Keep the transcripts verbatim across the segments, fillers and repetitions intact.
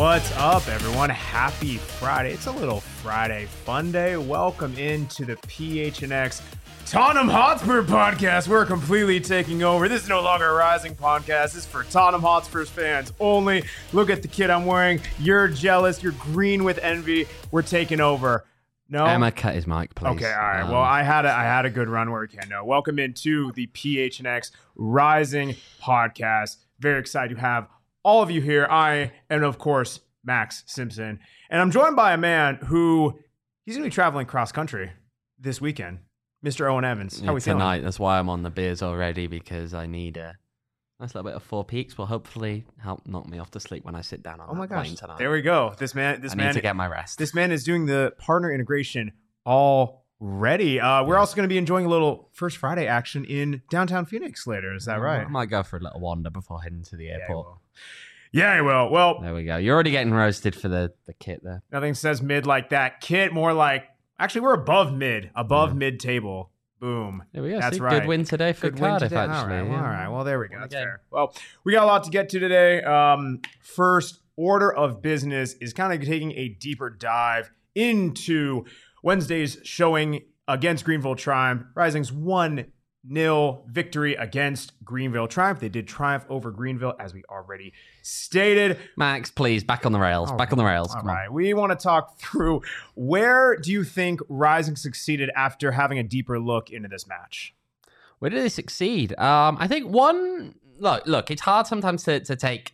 What's up, everyone? Happy Friday. It's a little Friday fun day. Welcome into the P H N X Tottenham Hotspur podcast. We're completely taking over. This is no longer a Rising podcast. This is for Tottenham Hotspurs fans only. Look at the kit I'm wearing. You're jealous. You're green with envy. We're taking over. No? Emma, cut his mic, please. Okay, all right. Um, well, I had a, I had a good run where we can. No, welcome into the P H N X Rising podcast. Very excited to have all of you here. I am, of course, Max Simpson. And I'm joined by a man who, he's going to be traveling cross country this weekend. Mister Owen Evans. How yeah, are we feeling? Tonight, that's why I'm on the beers already, because I need a nice little bit of Four Peaks. Will hopefully help knock me off to sleep when I sit down on Oh that my gosh. plane tonight. There we go. This man, this I man, need to get my rest. This man is doing the partner integration already. Uh, we're Yeah. also going to be enjoying a little First Friday action in downtown Phoenix later. Is that right? I might go for a little wander before heading to the Yeah, I airport. will. Yeah, I will. Well, There we go. You're already getting roasted for the, the kit there. nothing says mid like that. Kit, more like, actually, we're above mid, above Yeah. mid table. Boom. There we go. That's See, right. Good win today for Good win Cardiff, today. actually. All right, well, yeah. all right. Well, there we go. Won That's again. fair. Well, we got a lot to get to today. Um, first order of business is kind of taking a deeper dive into Wednesday's showing against Greenville Triumph. Rising's one nil victory against Greenville Triumph. They did triumph over Greenville, as we already stated. Max, please, back on the rails. All back right. on the rails. All Come on. right. We want to talk through, where do you think Rising succeeded after having a deeper look into this match? Where did they succeed? Um, I think one look. Look, it's hard sometimes to to take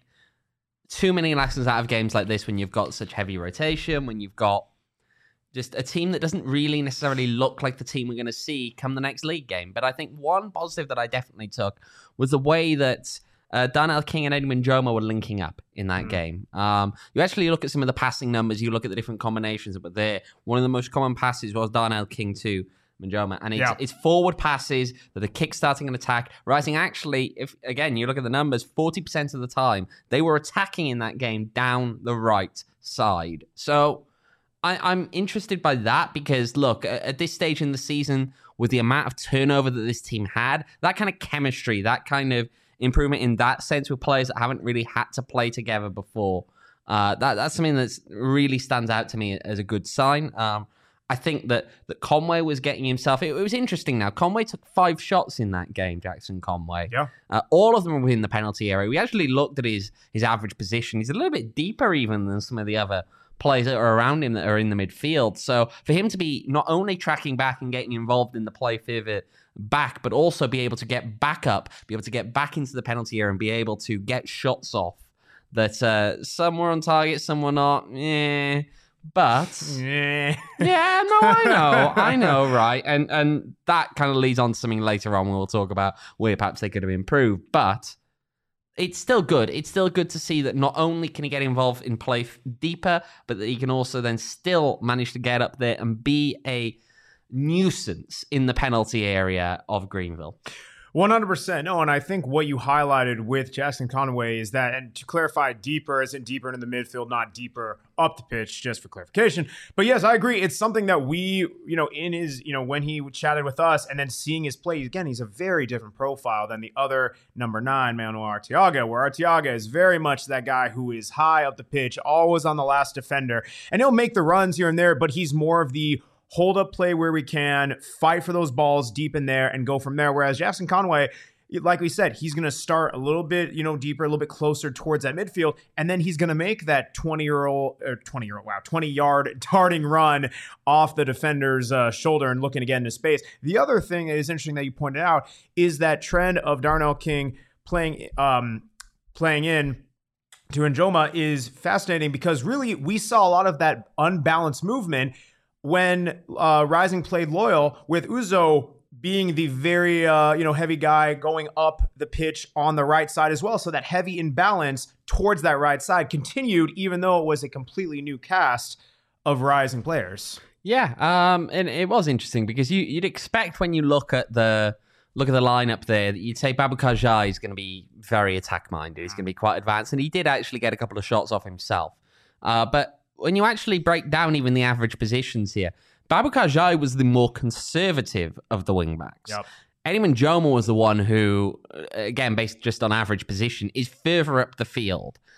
too many lessons out of games like this when you've got such heavy rotation, when you've got just a team that doesn't really necessarily look like the team we're going to see come the next league game. But I think one positive that I definitely took was the way that uh, Darnell King and Edwin Joma were linking up in that Mm. game. Um, you actually look at some of the passing numbers, you look at the different combinations that were there. One of the most common passes was Darnell King to Manjoma, and it's, Yeah. it's forward passes that are kick-starting an attack. Rising actually, if again, you look at the numbers, forty percent of the time, they were attacking in that game down the right side. So I, I'm interested by that because, look, at, at this stage in the season, with the amount of turnover that this team had, that kind of chemistry, that kind of improvement in that sense with players that haven't really had to play together before, uh, that that's something that really stands out to me as a good sign. Um, I think that, that Conway was getting himself... It, it was interesting now. Conway took five shots in that game, Jackson Conway. Yeah. Uh, all of them were within the penalty area. We actually looked at his, his average position. He's a little bit deeper even than some of the other players that are around him that are in the midfield. So for him to be not only tracking back and getting involved in the play further back, but also be able to get back up, be able to get back into the penalty area and be able to get shots off that uh, some were on target, some were not. Yeah. But Yeah. yeah, no, I know, I know, right, and and that kind of leads on to something later on when we'll talk about where perhaps they could have improved. But it's still good. It's still good to see that not only can he get involved in play f- deeper, but that he can also then still manage to get up there and be a nuisance in the penalty area of Greenville. one hundred percent. No, and I think what you highlighted with Jackson Conway is that, and to clarify, deeper isn't deeper into the midfield, not deeper up the pitch, just for clarification. But yes, I agree. It's something that we, you know, in his, you know, when he chatted with us and then seeing his play, again, he's a very different profile than the other number nine, Manuel Arteaga, where Arteaga is very much that guy who is high up the pitch, always on the last defender, and he'll make the runs here and there, but he's more of the hold up play where we can, fight for those balls deep in there and go from there. Whereas Jackson Conway, like we said, he's going to start a little bit, you know, deeper, a little bit closer towards that midfield. And then he's going to make that twenty year old or twenty year old, wow, twenty yard darting run off the defender's uh, shoulder and looking to get into space. The other thing that is interesting that you pointed out is that trend of Darnell King playing, um, playing in to Njoma is fascinating because really we saw a lot of that unbalanced movement when uh, Rising played Loyal, with Uzo being the very uh, you know heavy guy going up the pitch on the right side as well. So that heavy imbalance towards that right side continued, even though it was a completely new cast of Rising players. Yeah, um, and it was interesting because you, you'd expect when you look at the look at the lineup there that you'd say Babukar Jai is going to be very attack minded. He's going to be quite advanced, and he did actually get a couple of shots off himself. Uh, but when you actually break down even the average positions here, Babukar Jai was the more conservative of the wingbacks. Yep. Eddie Manjoma was the one who, again, based just on average position, is further up the field.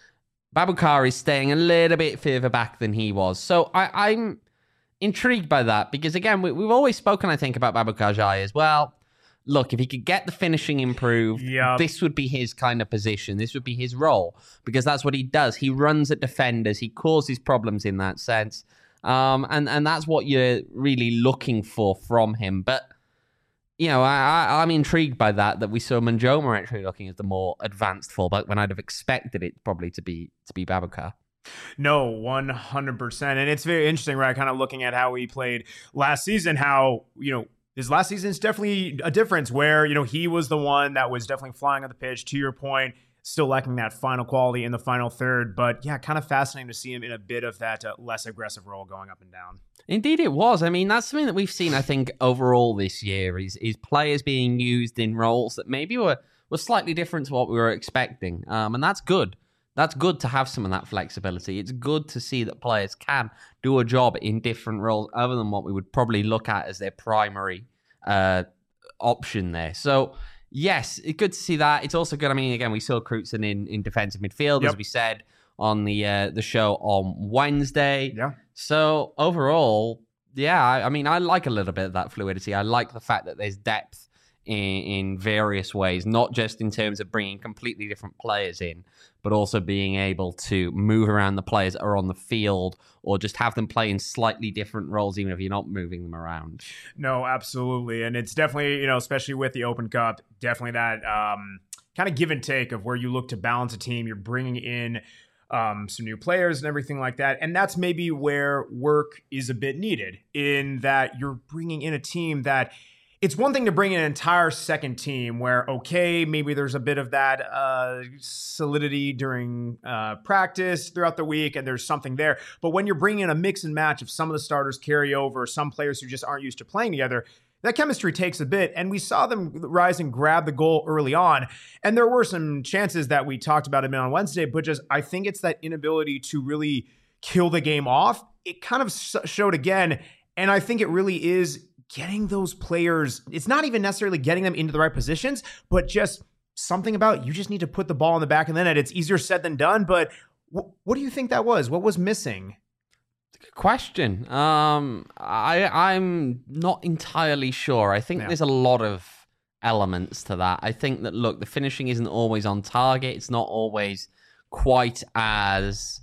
Babukar is staying a little bit further back than he was. So I, I'm intrigued by that because, again, we, we've always spoken, I think, about Babukar Jai as well. Look, if he could get the finishing improved, yep. this would be his kind of position. This would be his role because that's what he does. He runs at defenders. He causes problems in that sense. Um, and, and that's what you're really looking for from him. But, you know, I, I, I'm intrigued by that, that we saw Manjoma actually looking as the more advanced fullback when I'd have expected it probably to be to be Babukar. No, one hundred percent. And it's very interesting, right? Kind of looking at how he played last season, how, you know, his last season is definitely a difference where, you know, he was the one that was definitely flying on the pitch, to your point, still lacking that final quality in the final third. But yeah, kind of fascinating to see him in a bit of that uh, less aggressive role going up and down. Indeed it was. I mean, that's something that we've seen, I think, overall this year is, is players being used in roles that maybe were, were slightly different to what we were expecting. Um, and that's good. That's good to have some of that flexibility. It's good to see that players can do a job in different roles other than what we would probably look at as their primary uh, option there. So, yes, it's good to see that. It's also good. I mean, again, we saw Crutzen in, in defensive midfield, yep. as we said on the uh, the show on Wednesday. Yeah. So, overall, yeah, I, I mean, I like a little bit of that fluidity. I like the fact that there's depth in, in various ways, not just in terms of bringing completely different players in, but also being able to move around the players that are on the field or just have them play in slightly different roles, even if you're not moving them around. No, absolutely. And it's definitely, you know, especially with the Open Cup, definitely that um, kind of give and take of where you look to balance a team. You're bringing in um, some new players and everything like that. And that's maybe where work is a bit needed, in that you're bringing in a team that it's one thing to bring in an entire second team where, okay, maybe there's a bit of that uh, solidity during uh, practice throughout the week and there's something there. But when you're bringing in a mix and match of some of the starters carry over, some players who just aren't used to playing together, that chemistry takes a bit. And we saw them rise and grab the goal early on. And there were some chances that we talked about a bit on Wednesday, but just I think it's that inability to really kill the game off. It kind of showed again. And I think it really is getting those players, it's not even necessarily getting them into the right positions, but just something about you just need to put the ball in the back of the net. It's easier said than done, but wh- what do you think that was? What was missing? Good question. Um, I, I'm not entirely sure. I think yeah. there's a lot of elements to that. I think that, look, the finishing isn't always on target. It's not always quite as...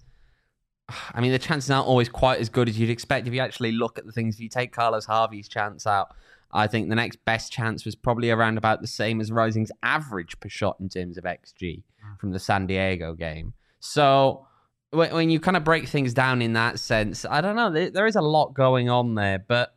I mean, the chances aren't always quite as good as you'd expect if you actually look at the things. If you take Carlos Harvey's chance out, I think the next best chance was probably around about the same as Rising's average per shot in terms of X G from the San Diego game. So when you kind of break things down in that sense, I don't know. There is a lot going on there, but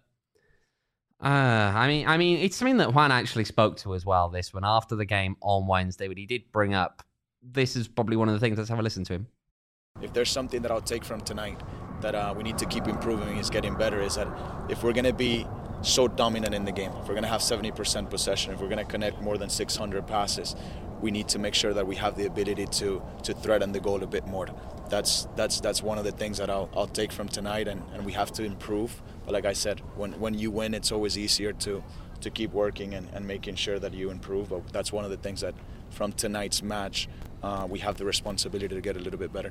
uh, I mean, I mean, it's something that Juan actually spoke to as well. This one after the game on Wednesday, but he did bring up. This is probably one of the things. Let's have a listen to him. If there's something that I'll take from tonight that uh, we need to keep improving, is getting better, is that if we're going to be so dominant in the game, if we're going to have seventy percent possession, if we're going to connect more than six hundred passes, we need to make sure that we have the ability to to threaten the goal a bit more. That's that's that's one of the things that I'll, I'll take from tonight, and, and we have to improve. But like I said, when, when you win, it's always easier to, to keep working and, and making sure that you improve. But that's one of the things that from tonight's match, uh, we have the responsibility to get a little bit better.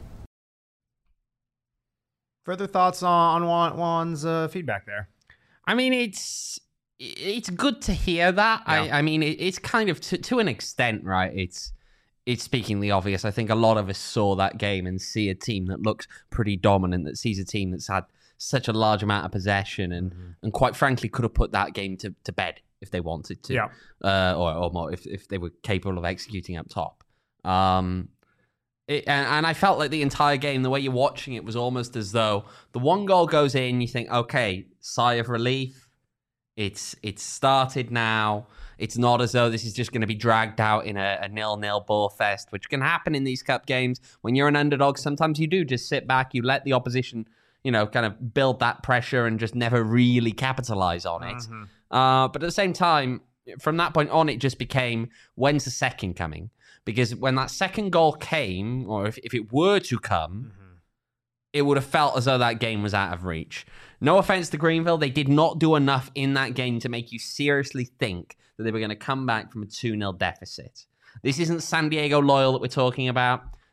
Further thoughts on Juan, Juan's uh, feedback there? I mean, it's it's good to hear that. Yeah. I, I mean, it, it's kind of to, to an extent, right? It's it's speaking the obvious. I think a lot of us saw that game and see a team that looks pretty dominant, that sees a team that's had such a large amount of possession and, mm-hmm. and quite frankly could have put that game to, to bed if they wanted to, yeah. uh, or, or more if, if they were capable of executing up top. Um, It, and, and I felt like the entire game, the way you're watching it, was almost as though the one goal goes in, you think, okay, sigh of relief. It's it's started now. It's not as though this is just going to be dragged out in a, a nil-nil ball fest, which can happen in these cup games. When you're an underdog, sometimes you do just sit back, you let the opposition, you know, kind of build that pressure and just never really capitalize on it. Mm-hmm. Uh, but at the same time, from that point on, it just became, when's the second coming? Because when that second goal came, or if, if it were to come, mm-hmm. it would have felt as though that game was out of reach. No offense to Greenville, they did not do enough in that game to make you seriously think that they were going to come back from a two nil deficit. This isn't San Diego Loyal that we're talking about.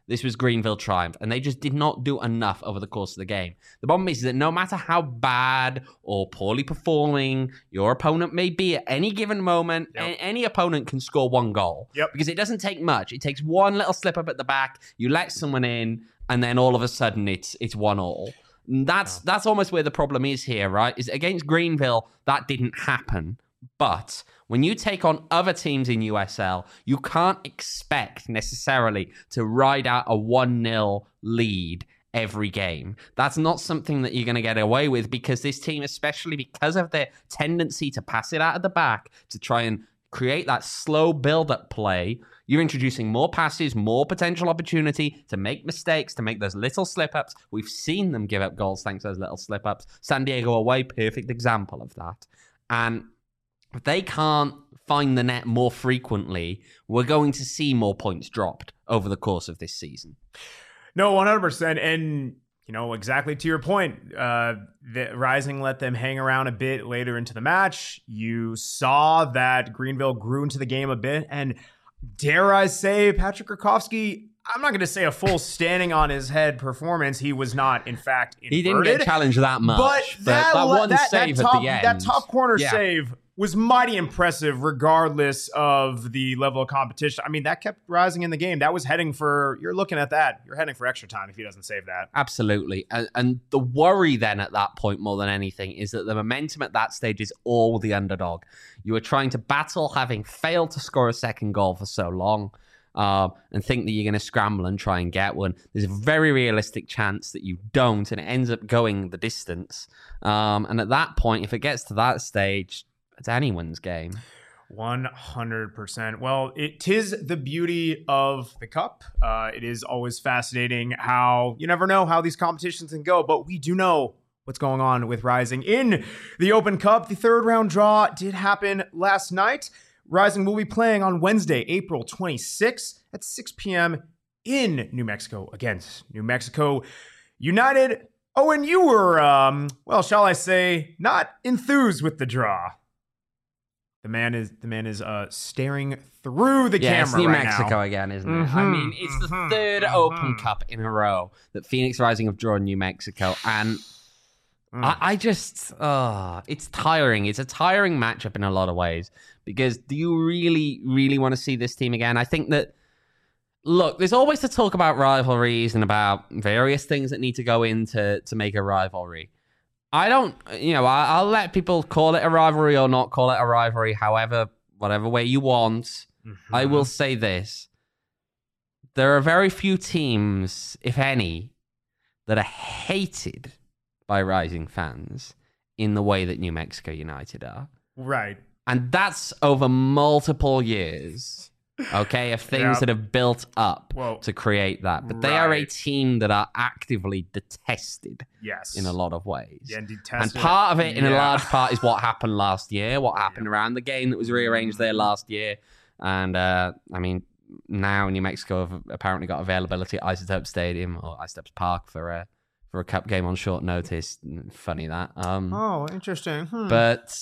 this was Greenville triumph, and they just did not do enough over the course of the game. The problem is that no matter how bad or poorly performing your opponent may be at any given moment, Yep. a- any opponent can score one goal. Yep. Because it doesn't take much. It takes one little slip up at the back, you let someone in, and then all of a sudden it's it's one all. That's that's almost where the problem is here, right? Is against Greenville, that didn't happen. But when you take on other teams in U S L, you can't expect necessarily to ride out a one nil lead every game. That's not something that you're going to get away with, because this team, especially because of their tendency to pass it out of the back, to try and create that slow build-up play, you're introducing more passes, more potential opportunity to make mistakes, to make those little slip-ups. We've seen them give up goals thanks to those little slip-ups. San Diego away, perfect example of that. And if they can't find the net more frequently, we're going to see more points dropped over the course of this season. No, one hundred percent. And, you know, exactly to your point, uh, the Rising let them hang around a bit later into the match. You saw that Greenville grew into the game a bit. And dare I say, Patrick Rakowski, I'm not going to say a full standing on his head performance. He was not, in fact, inverted. He didn't get challenged that much. But that, that one that, save that top, at the end. that top corner Yeah. save was mighty impressive regardless of the level of competition. I mean, that kept Rising in the game. That was heading for, you're looking at that, you're heading for extra time if he doesn't save that. Absolutely. And, and the worry then at that point, more than anything, is that the momentum at that stage is all the underdog. You are trying to battle having failed to score a second goal for so long. Uh, and think that you're going to scramble and try and get one. There's a very realistic chance that you don't, and it ends up going the distance. Um, and at that point, if it gets to that stage, it's anyone's game. one hundred percent. Well, it tis the beauty of the Cup. Uh, it is always fascinating how you never know how these competitions can go, but we do know what's going on with Rising in the Open Cup. The third round draw did happen last night. Rising will be playing on Wednesday, April twenty-sixth at six p.m. in New Mexico against New Mexico United. Oh, and you were, um, well, shall I say, not enthused with the draw. The man is the man is uh, staring through the yeah, camera it's New right Mexico now. again, isn't it? Mm-hmm, I mean, it's the mm-hmm, third mm-hmm. Open Cup in a row that Phoenix Rising have drawn New Mexico, and Mm. I, I just, uh, it's tiring. It's a tiring matchup in a lot of ways, because do you really, really want to see this team again? I think that, look, there's always to talk about rivalries and about various things that need to go into to make a rivalry. I don't, you know, I, I'll let people call it a rivalry or not call it a rivalry, however, whatever way you want. Mm-hmm. I will say this. There are very few teams, if any, that are hated by Rising fans in the way that New Mexico United are. Right. And that's over multiple years, okay, of things Yep. that have built up Whoa. to create that. But they are a Right. team that are actively detested Yes. in a lot of ways. Yeah, indeed, And tested. part of it, in a Yeah. large part, is what happened last year, what happened around the game that was rearranged there last year. And, uh, I mean, now New Mexico have apparently got availability at Isotope Stadium, or Isotopes Park, for a, for a cup game on short notice. Funny that. Um, Oh, interesting. Hmm. But,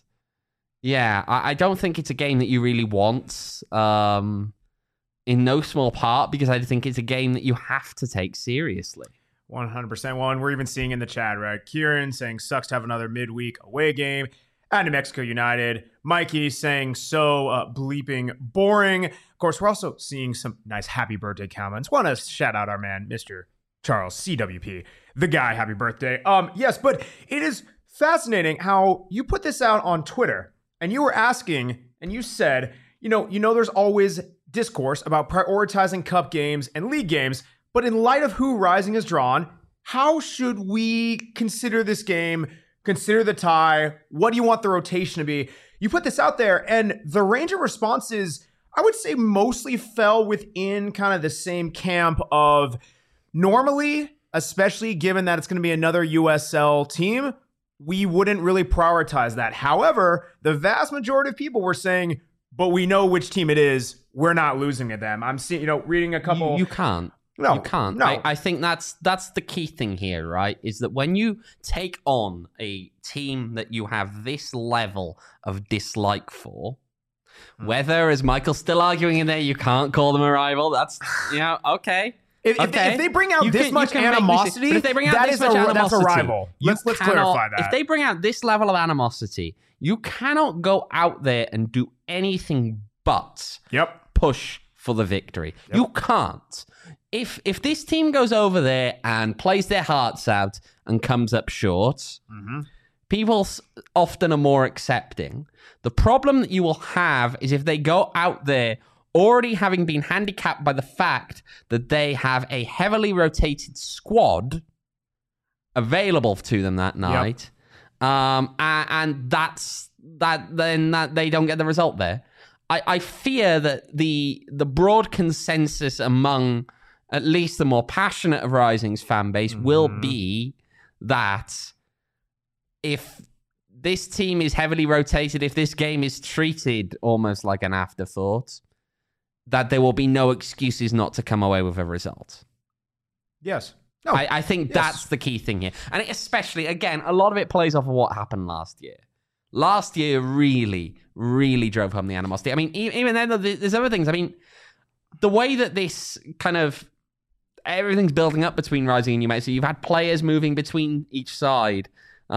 yeah, I, I don't think it's a game that you really want, um, in no small part, because I think it's a game that you have to take seriously. one hundred percent. Well, and we're even seeing in the chat, right? Kieran saying, sucks to have another midweek away game at New Mexico United. Mikey saying, so uh, bleeping boring. Of course, we're also seeing some nice happy birthday comments. Want to shout out our man, Mister Charles C W P, the guy. Happy birthday. Um, yes, but it is fascinating how you put this out on Twitter, and you were asking, and you said, you know, you know, there's always discourse about prioritizing cup games and league games, but in light of who Rising has drawn, how should we consider this game? Consider the tie. What do you want the rotation to be? You put this out there, and the range of responses, I would say, mostly fell within kind of the same camp of normally, especially given that it's going to be another U S L team, we wouldn't really prioritize that. However, the vast majority of people were saying, but we know which team it is. We're not losing to them. I'm seeing, you know, reading a couple. You, you can't. No, you can't. no. I, I think that's that's the key thing here, right? Is that when you take on a team that you have this level of dislike for, Hmm. whether, as Michael's still arguing in there, you can't call them a rival. That's, you know, okay. If, if, Okay. they, if they bring out You this can- you much can make me see- animosity, but if they bring out that this is much a, animosity, that's a rival. you Let's let's cannot- clarify that. If they bring out this level of animosity, you cannot go out there and do anything but Yep. push for the victory. You can't. If if this team goes over there and plays their hearts out and comes up short, Mm-hmm. people s- often are more accepting. The problem that you will have is if they go out there already having been handicapped by the fact that they have a heavily rotated squad available to them that night, um, and, and that's that. Then that they don't get the result there. I, I fear that the the broad consensus among at least the more passionate of Rising's fan base Mm-hmm. will be that if this team is heavily rotated, if this game is treated almost like an afterthought, that there will be no excuses not to come away with a result. Yes. No. I, I think yes. that's the key thing here. And it especially, again, a lot of it plays off of what happened last year. Last year really, really drove home the animosity. I mean, e- even then, there's other things. I mean, the way that this kind of everything's building up between Rising and New Mexico, you've had players moving between each side.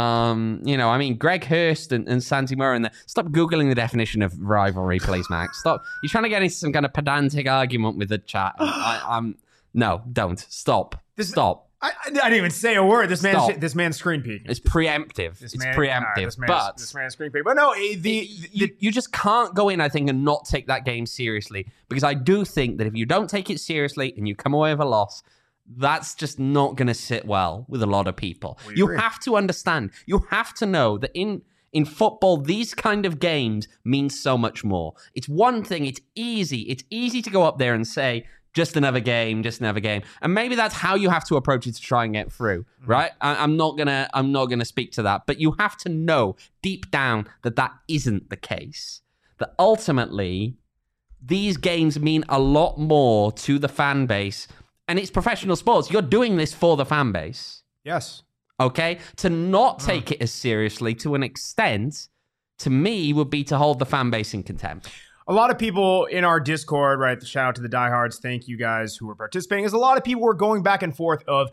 Um, you know, I mean, Greg Hurst and, and Santi Murray. And the, stop Googling the definition of rivalry, please, Max. Stop. You're trying to get into some kind of pedantic argument with the chat. I, I'm no, don't stop. This- stop. I, I didn't even say a word. This man, Stop. this man's screen peeking. It's preemptive. This it's man- preemptive. all right, this man's, but this man's screen peeking. But no, eh, the, you, the you just can't go in, I think, and not take that game seriously. Because I do think that if you don't take it seriously and you come away with a loss, that's just not going to sit well with a lot of people. We You agree. have to understand. You have to know that in in football, these kind of games mean so much more. It's one thing. It's easy. It's easy to go up there and say, just another game, just another game. And maybe that's how you have to approach it to try and get through, Mm-hmm. right? I, I'm not gonna, I'm not gonna speak to that, but you have to know deep down that that isn't the case. That ultimately, these games mean a lot more to the fan base, and it's professional sports. You're doing this for the fan base, yes. okay? To not take it as seriously, to an extent, to me, would be to hold the fan base in contempt. A lot of people in our Discord, right? Shout out to the diehards. Thank you guys who are participating. As a lot of people were going back and forth of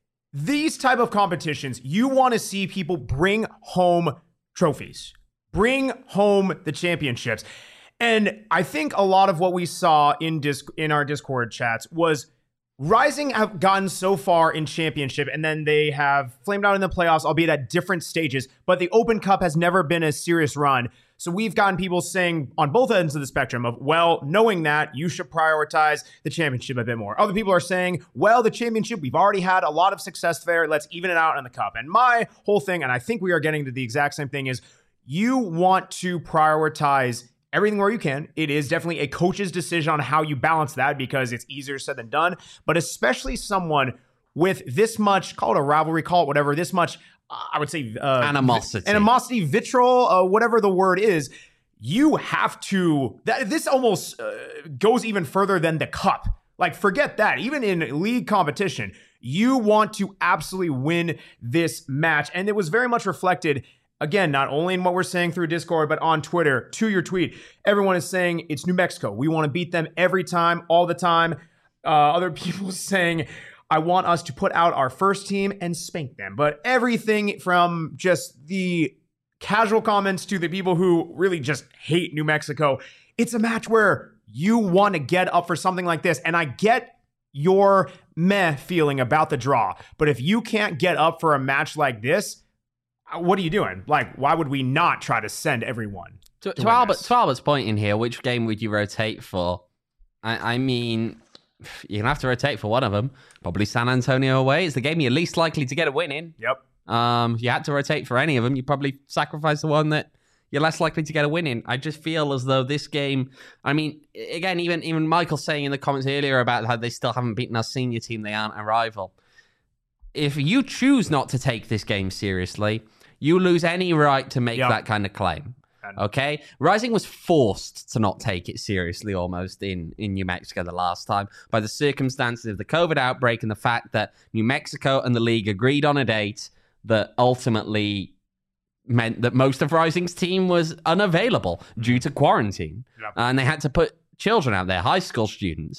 these type of competitions. You want to see people bring home trophies, bring home the championships, and I think a lot of what we saw in disc in our Discord chats was Rising have gotten so far in championship, and then they have flamed out in the playoffs, albeit at different stages. But the Open Cup has never been a serious run. So we've gotten people saying on both ends of the spectrum of, well, knowing that, you should prioritize the championship a bit more. Other people are saying, well, the championship, we've already had a lot of success there. Let's even it out in the cup. And my whole thing, and I think we are getting to the exact same thing, is you want to prioritize everything where you can. It is definitely a coach's decision on how you balance that because it's easier said than done. But especially someone with this much, call it a rivalry, call it whatever, this much, uh, I would say uh, Animosity. animosity, vitriol, uh, whatever the word is. You have to, that, this almost uh, goes even further than the cup. Like, forget that. Even in league competition, you want to absolutely win this match. And it was very much reflected, again, not only in what we're saying through Discord, but on Twitter, to your tweet. Everyone is saying it's New Mexico. We want to beat them every time, all the time. Uh, other people saying, I want us to put out our first team and spank them. But everything from just the casual comments to the people who really just hate New Mexico, it's a match where you want to get up for something like this. And I get your meh feeling about the draw. But if you can't get up for a match like this, what are you doing? Like, why would we not try to send everyone? To, to to, win Albert, this? to Albert's point in here, which game would you rotate for? I, I mean, you're going to have to rotate for one of them. Probably San Antonio away. It's the game you're least likely to get a win in. Yep. Um, if you had to rotate for any of them, you probably sacrifice the one that you're less likely to get a win in. I just feel as though this game, I mean, again, even even Michael saying in the comments earlier about how they still haven't beaten our senior team, they aren't a rival. If you choose not to take this game seriously, you lose any right to make Yep. that kind of claim. Okay? Rising was forced to not take it seriously almost in, in New Mexico the last time by the circumstances of the COVID outbreak and the fact that New Mexico and the league agreed on a date that ultimately meant that most of Rising's team was unavailable due to quarantine. Yep. And they had to put children out there, high school students.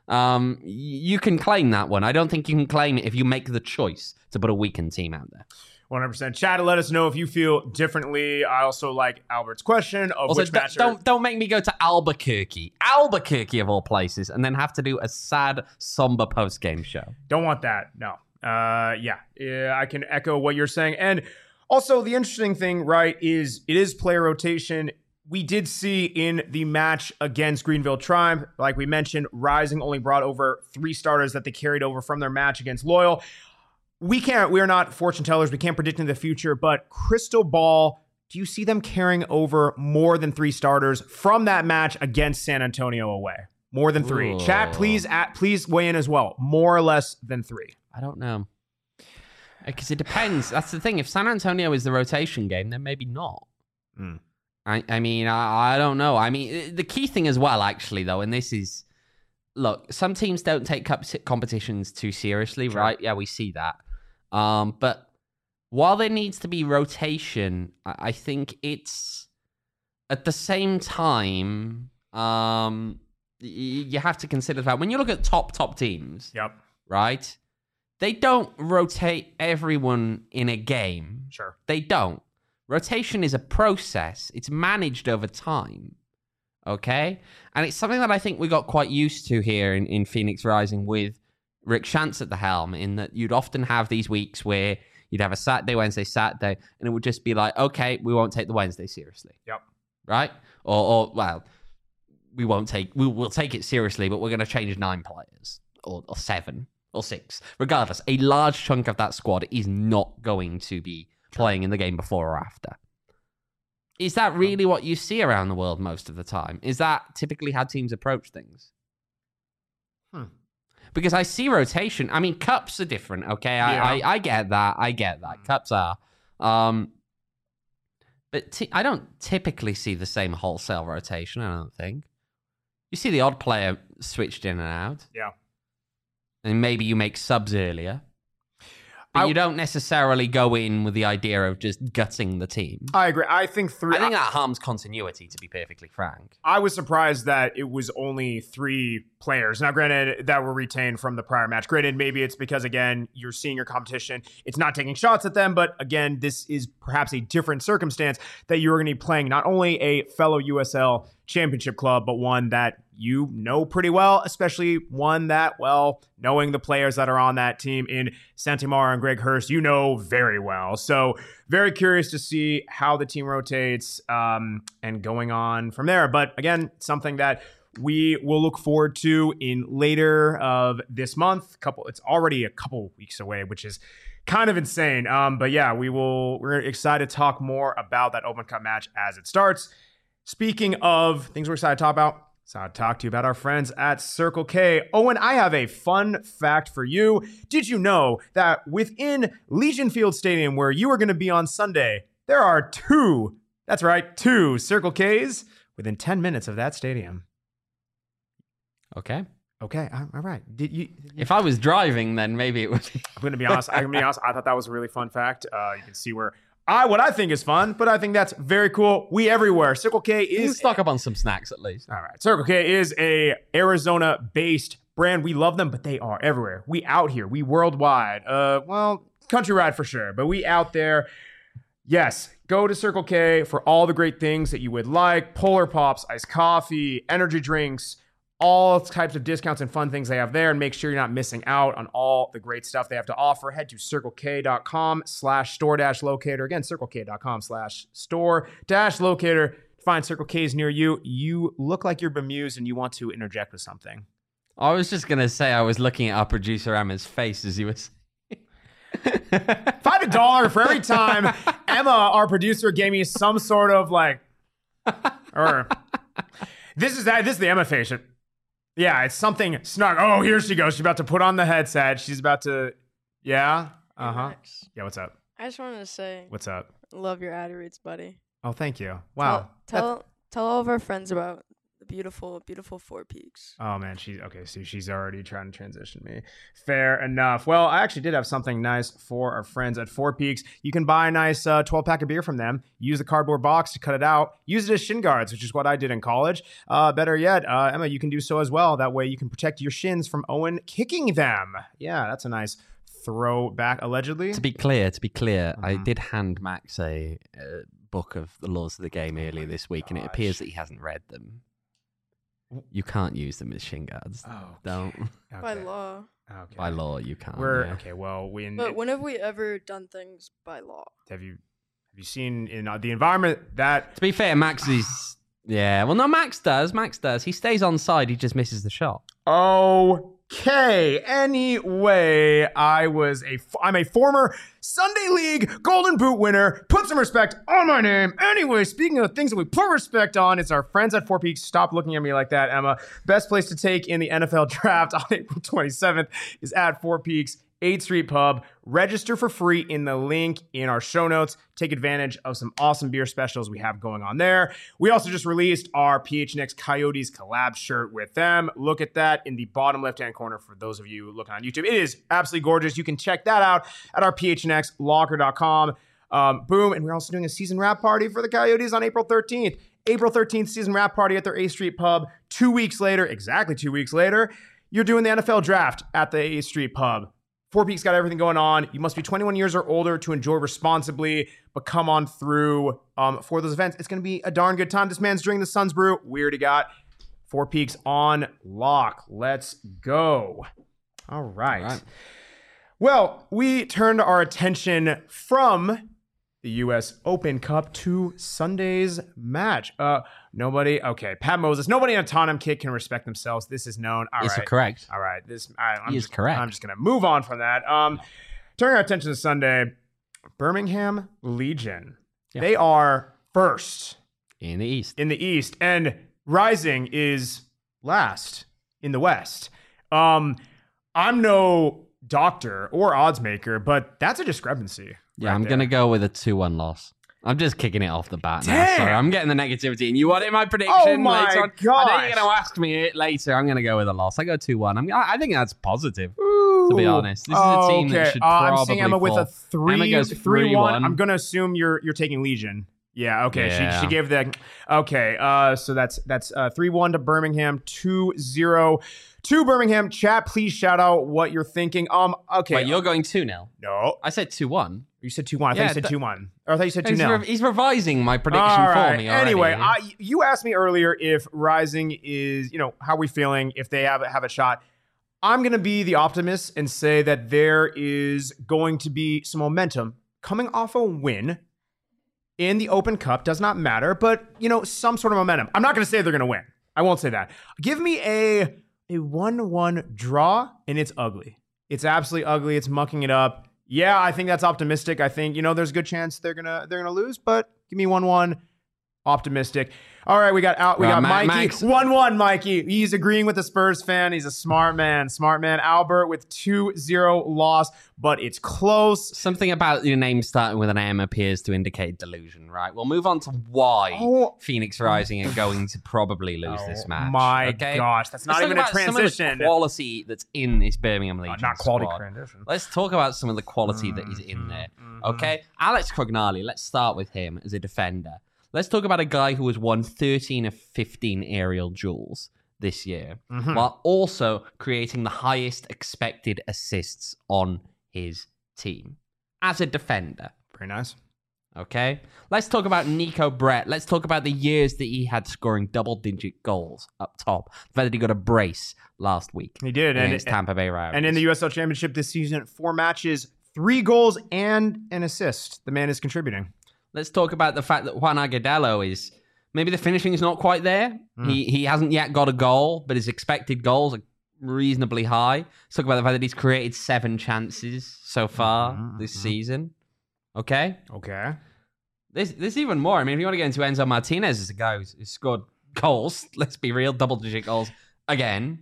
Um, y- you can claim that one. I don't think you can claim it if you make the choice to put a weakened team out there. one hundred percent. Chat, let us know if you feel differently. I also like Albert's question of Also, which d- match. don't don't make me go to Albuquerque, Albuquerque of all places, and then have to do a sad, somber post game show. Don't want that. No. Uh, yeah. yeah, I can echo what you're saying. And also, the interesting thing, right, is it is player rotation. We did see in the match against Greenville Triumph, like we mentioned, Rising only brought over three starters that they carried over from their match against Loyal. We can't, we're not fortune tellers. We can't predict in the future, but crystal ball, do you see them carrying over more than three starters from that match against San Antonio away? More than three. Ooh. Chat, please, at, please weigh in as well. More or less than three. I don't know. Because it depends. That's the thing. If San Antonio is the rotation game, then maybe not. Mm. I, I mean, I, I don't know. I mean, the key thing as well, actually, though, and this is, look, some teams don't take cup competitions too seriously, Sure. right? Yeah, we see that. Um, but while there needs to be rotation, I, I think it's at the same time, um, y- you have to consider that when you look at top, top teams, Yep. right? They don't rotate everyone in a game. Sure. They don't. Rotation is a process. It's managed over time. Okay? And it's something that I think we got quite used to here in, in Phoenix Rising with Rick Shantz at the helm, in that you'd often have these weeks where you'd have a Saturday, Wednesday, Saturday, and it would just be like, okay, we won't take the Wednesday seriously. Yep. Right? Or, or well, we won't take, we will take it seriously, but we're going to change nine players or, or seven. Or six. Regardless, a large chunk of that squad is not going to be playing in the game before or after. Is that really what you see around the world most of the time? Is that typically how teams approach things? Hmm. Because I see rotation. I mean, cups are different, okay? I, Yeah. I, I get that. I get that. Cups are. Um, but t- I don't typically see the same wholesale rotation, I don't think. You see the odd player switched in and out. Yeah. And maybe you make subs earlier. But I- you don't necessarily go in with the idea of just gutting the team. I agree. I think three. I think that harms continuity, to be perfectly frank. I was surprised that it was only three players. Now, granted, that were retained from the prior match. Granted, maybe it's because, again, you're seeing your competition. It's not taking shots at them, but again, this is perhaps a different circumstance that you're going to be playing not only a fellow U S L championship club, but one that you know pretty well, especially one that, well, knowing the players that are on that team in Santimar and Greg Hurst, you know very well. So very curious to see how the team rotates um, and going on from there. But again, something that we will look forward to in later of this month. Couple, it's already a couple weeks away, which is kind of insane. Um, but yeah, we will. We're excited to talk more about that Open Cup match as it starts. Speaking of things we're excited to talk about, so I'll talk to you about our friends at Circle K. Owen, I have a fun fact for you. Did you know that within Legion Field Stadium, where you are going to be on Sunday, there are two, that's right, two Circle Ks within ten minutes of that stadium? Okay. Okay, all all right. Did you? Did you If I was driving, then maybe it would be. I'm going to be honest. I'm going to be honest. I thought that was a really fun fact. Uh, you can see where I, what I think is fun, but I think that's very cool. We everywhere. Circle K You is stock up on some snacks at least. All right. Circle K is a Arizona-based brand. We love them, but they are everywhere. We out here. We worldwide. Uh, well, countrywide for sure, but we out there. Yes, go to Circle K for all the great things that you would like. Polar Pops, iced coffee, energy drinks, all types of discounts and fun things they have there, and make sure you're not missing out on all the great stuff they have to offer. Head to circlek.com slash store dash locator. Again, circlek.com slash store dash locator. Find Circle K's near you. You look like you're bemused and you want to interject with something. I was just going to say I was looking at our producer Emma's face as he was. If I had a dollar for every time Emma, our producer, gave me some sort of like, or this is that, this is the Emma face. Yeah, it's something snug. Oh, here she goes. She's about to put on the headset. She's about to, yeah. Uh huh. Max, Yeah, what's up? I just wanted to say, What's up? love your ad reads, buddy. Oh, thank you. Wow. Tell tell, tell all of our friends about the beautiful, beautiful Four Peaks. Oh man, she's okay. So she's already trying to transition me. Fair enough. Well, I actually did have something nice for our friends at Four Peaks. You can buy a nice uh, twelve pack of beer from them. Use the cardboard box to cut it out. Use it as shin guards, which is what I did in college. Uh, better yet, uh, Emma, you can do so as well. That way, you can protect your shins from Owen kicking them. Yeah, that's a nice throwback. Allegedly, To be clear, to be clear, I Mhm. did hand Max a, a book of the laws of the game earlier this week, and it appears that he hasn't read them. You can't use them as shin guards. Oh, Don't. By law. Okay. By law, you can't. We're yeah. okay. Well, we But when have we ever done things by law? have you have you seen in uh, the environment that To be fair, Max is. Yeah, well, no, Max does. Max does. He stays on side. He just misses the shot. Okay. Anyway, I was a I'm a former Sunday League Golden Boot winner. Put some respect on my name. Anyway, speaking of things that we put respect on, it's our friends at Four Peaks. Stop looking at me like that, Emma. Best place to take in the N F L draft on April twenty-seventh is at Four Peaks eighth Street Pub. Register for free in the link in our show notes. Take advantage of some awesome beer specials we have going on there. We also just released our P H N X Coyotes collab shirt with them. Look at that in the bottom left-hand corner for those of you looking on YouTube. It is absolutely gorgeous. You can check that out at our P H N X locker dot com. Um, boom. And we're also doing a season wrap party for the Coyotes on April thirteenth. April thirteenth season wrap party at their eighth Street Pub. Two weeks later, exactly two weeks later, you're doing the N F L draft at the eighth Street Pub. Four Peaks got everything going on. You must be twenty-one years or older to enjoy responsibly, but come on through um, for those events. It's going to be a darn good time. This man's drinking the Suns Brew. We already got Four Peaks on lock. Let's go. All right. All right. Well, we turned our attention from the U S Open Cup to Sunday's match. Uh, nobody, okay, Pat Moses, nobody in a Tottenham kit can respect themselves. This is known. All Is right. it correct? All right. This I, I'm He is just, correct. I'm just going to move on from that. Um, turning our attention to Sunday, Birmingham Legion. Yeah. They are first In the East. in the East, and Rising is last in the West. Um, I'm no doctor or odds maker, but that's a discrepancy. Yeah, right I'm there. going to go with a two one loss. I'm just kicking it off the bat now. Damn. Sorry, I'm getting the negativity. And you want it in my prediction Oh my later on? I know gosh. you're going to ask me it later. I'm going to go with a loss. I go two one. I'm, I I think that's positive, Ooh. to be honest. This is a team that Okay. should Uh, I'm probably seeing Emma with fall. a three, Emma goes three one. three one. I'm gonna assume you're you're taking Legion. Yeah. Okay. Yeah. She she gave the okay. Uh, so that's that's uh three one to Birmingham, two zero to Birmingham. Chat, please shout out what you're thinking. Um. Okay. Wait, you're going two nil. no. I said two one. You said two one. I thought Yeah, you said th- two one. Or I thought you said two He's, nil. re- he's revising my prediction All right. for me already. Anyway, I, you asked me earlier if Rising is, you know, how we feeling, if they have have a shot. I'm going to be the optimist and say that there is going to be some momentum coming off a win in the Open Cup. Does not matter, but, you know, some sort of momentum. I'm not going to say they're going to win. I won't say that. Give me a a one one draw, and it's ugly. It's absolutely ugly. It's mucking it up. Yeah, I think that's optimistic. I think, you know, there's a good chance they're gonna they're gonna lose, but give me one one. Optimistic. All right, we got out. We Right, got Ma- Mikey. Max. one one, Mikey. He's agreeing with the Spurs fan. He's a smart man. Smart man. Albert with two zero loss, but it's close. Something about your name starting with an M appears to indicate delusion, right? We'll move on to why Oh. Phoenix Rising are going to probably lose this Oh match. my okay? gosh, that's not Let's even talk a about some of the transition. quality that's in this Birmingham Uh, Legion not quality squad. transition. Let's talk about some of the quality that is in there. Okay, Alex Crognali. Let's start with him as a defender. Let's talk about a guy who has won thirteen of fifteen aerial duels this year, Mhm. while also creating the highest expected assists on his team as a defender. Very nice. Okay, let's talk about Nico Brett. Let's talk about the years that he had scoring double-digit goals up top. The fact that he got a brace last week He did, and against Tampa Bay Rays. and in the U S L Championship this season, four matches, three goals, and an assist. The man is contributing. Let's talk about the fact that Juan Agudelo is maybe the finishing is not quite there. Mm. He he hasn't yet got a goal, but his expected goals are reasonably high. Let's talk about the fact that he's created seven chances so far Mhm, this mhm. season. Okay, Okay. there's there's even more. I mean, if you want to get into Enzo Martinez as a guy who's, who's scored goals, let's be real, double digit goals again.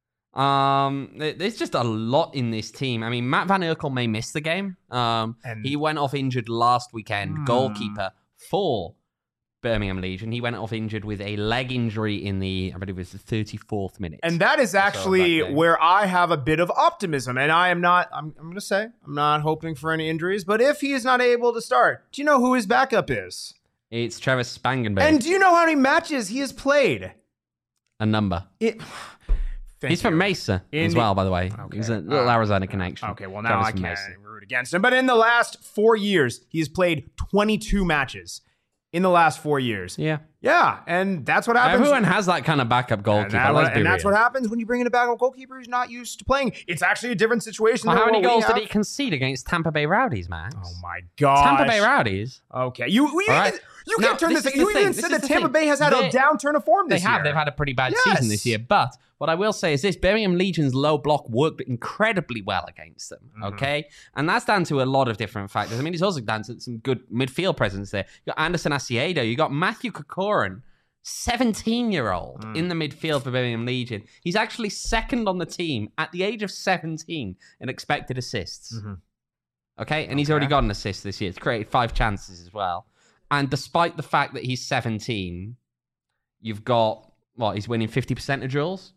Um, there- there's just a lot in this team. I mean, Matt Van Urkel may miss the game. Um, And- he went off injured last weekend. Hmm. Goalkeeper for Birmingham Legion. He went off injured with a leg injury in the, I believe it was the thirty-fourth minute. And that is actually that where I have a bit of optimism. And I am not, I'm, I'm going to say, I'm not hoping for any injuries. But if he is not able to start, do you know who his backup is? It's Trevor Spangenberg. And do you know how many matches he has played? A number. It, He's from Mesa In as the- well, by the way. Okay. He's a little Uh, Arizona connection. Okay, well, now Trevor's I from can't Mesa. root against him. But in the last four years, he's played twenty-two matches. In the last four years. Yeah. Yeah, and that's what happens. Everyone has that kind of backup goalkeeper. And, that- let's be and that's real. what happens when you bring in a backup goalkeeper who's not used to playing. It's actually a different situation. Well, than how many what we goals did have. he concede against Tampa Bay Rowdies, Max? Oh my god! Tampa Bay Rowdies. Okay, you you, All right. you Now, can't turn this this. is You the even thing. said This that is the Tampa thing. Bay has had They- a downturn of form They this have. year. They've had a pretty bad Yes. season this year. But what I will say is this: Birmingham Legion's low block worked incredibly well against them. Mm-hmm. Okay, and that's down to a lot of different factors. I mean, it's also down to some good midfield presence there. You got Anderson Asiedo. You got Matthew Kokorin, seventeen-year-old Mm. in the midfield for Birmingham Legion. He's actually second on the team at the age of seventeen in expected assists. Mhm. Okay, and he's Okay. already got an assist this year. It's created five chances as well. And despite the fact that he's seventeen, you've got, what, he's winning fifty percent of duels?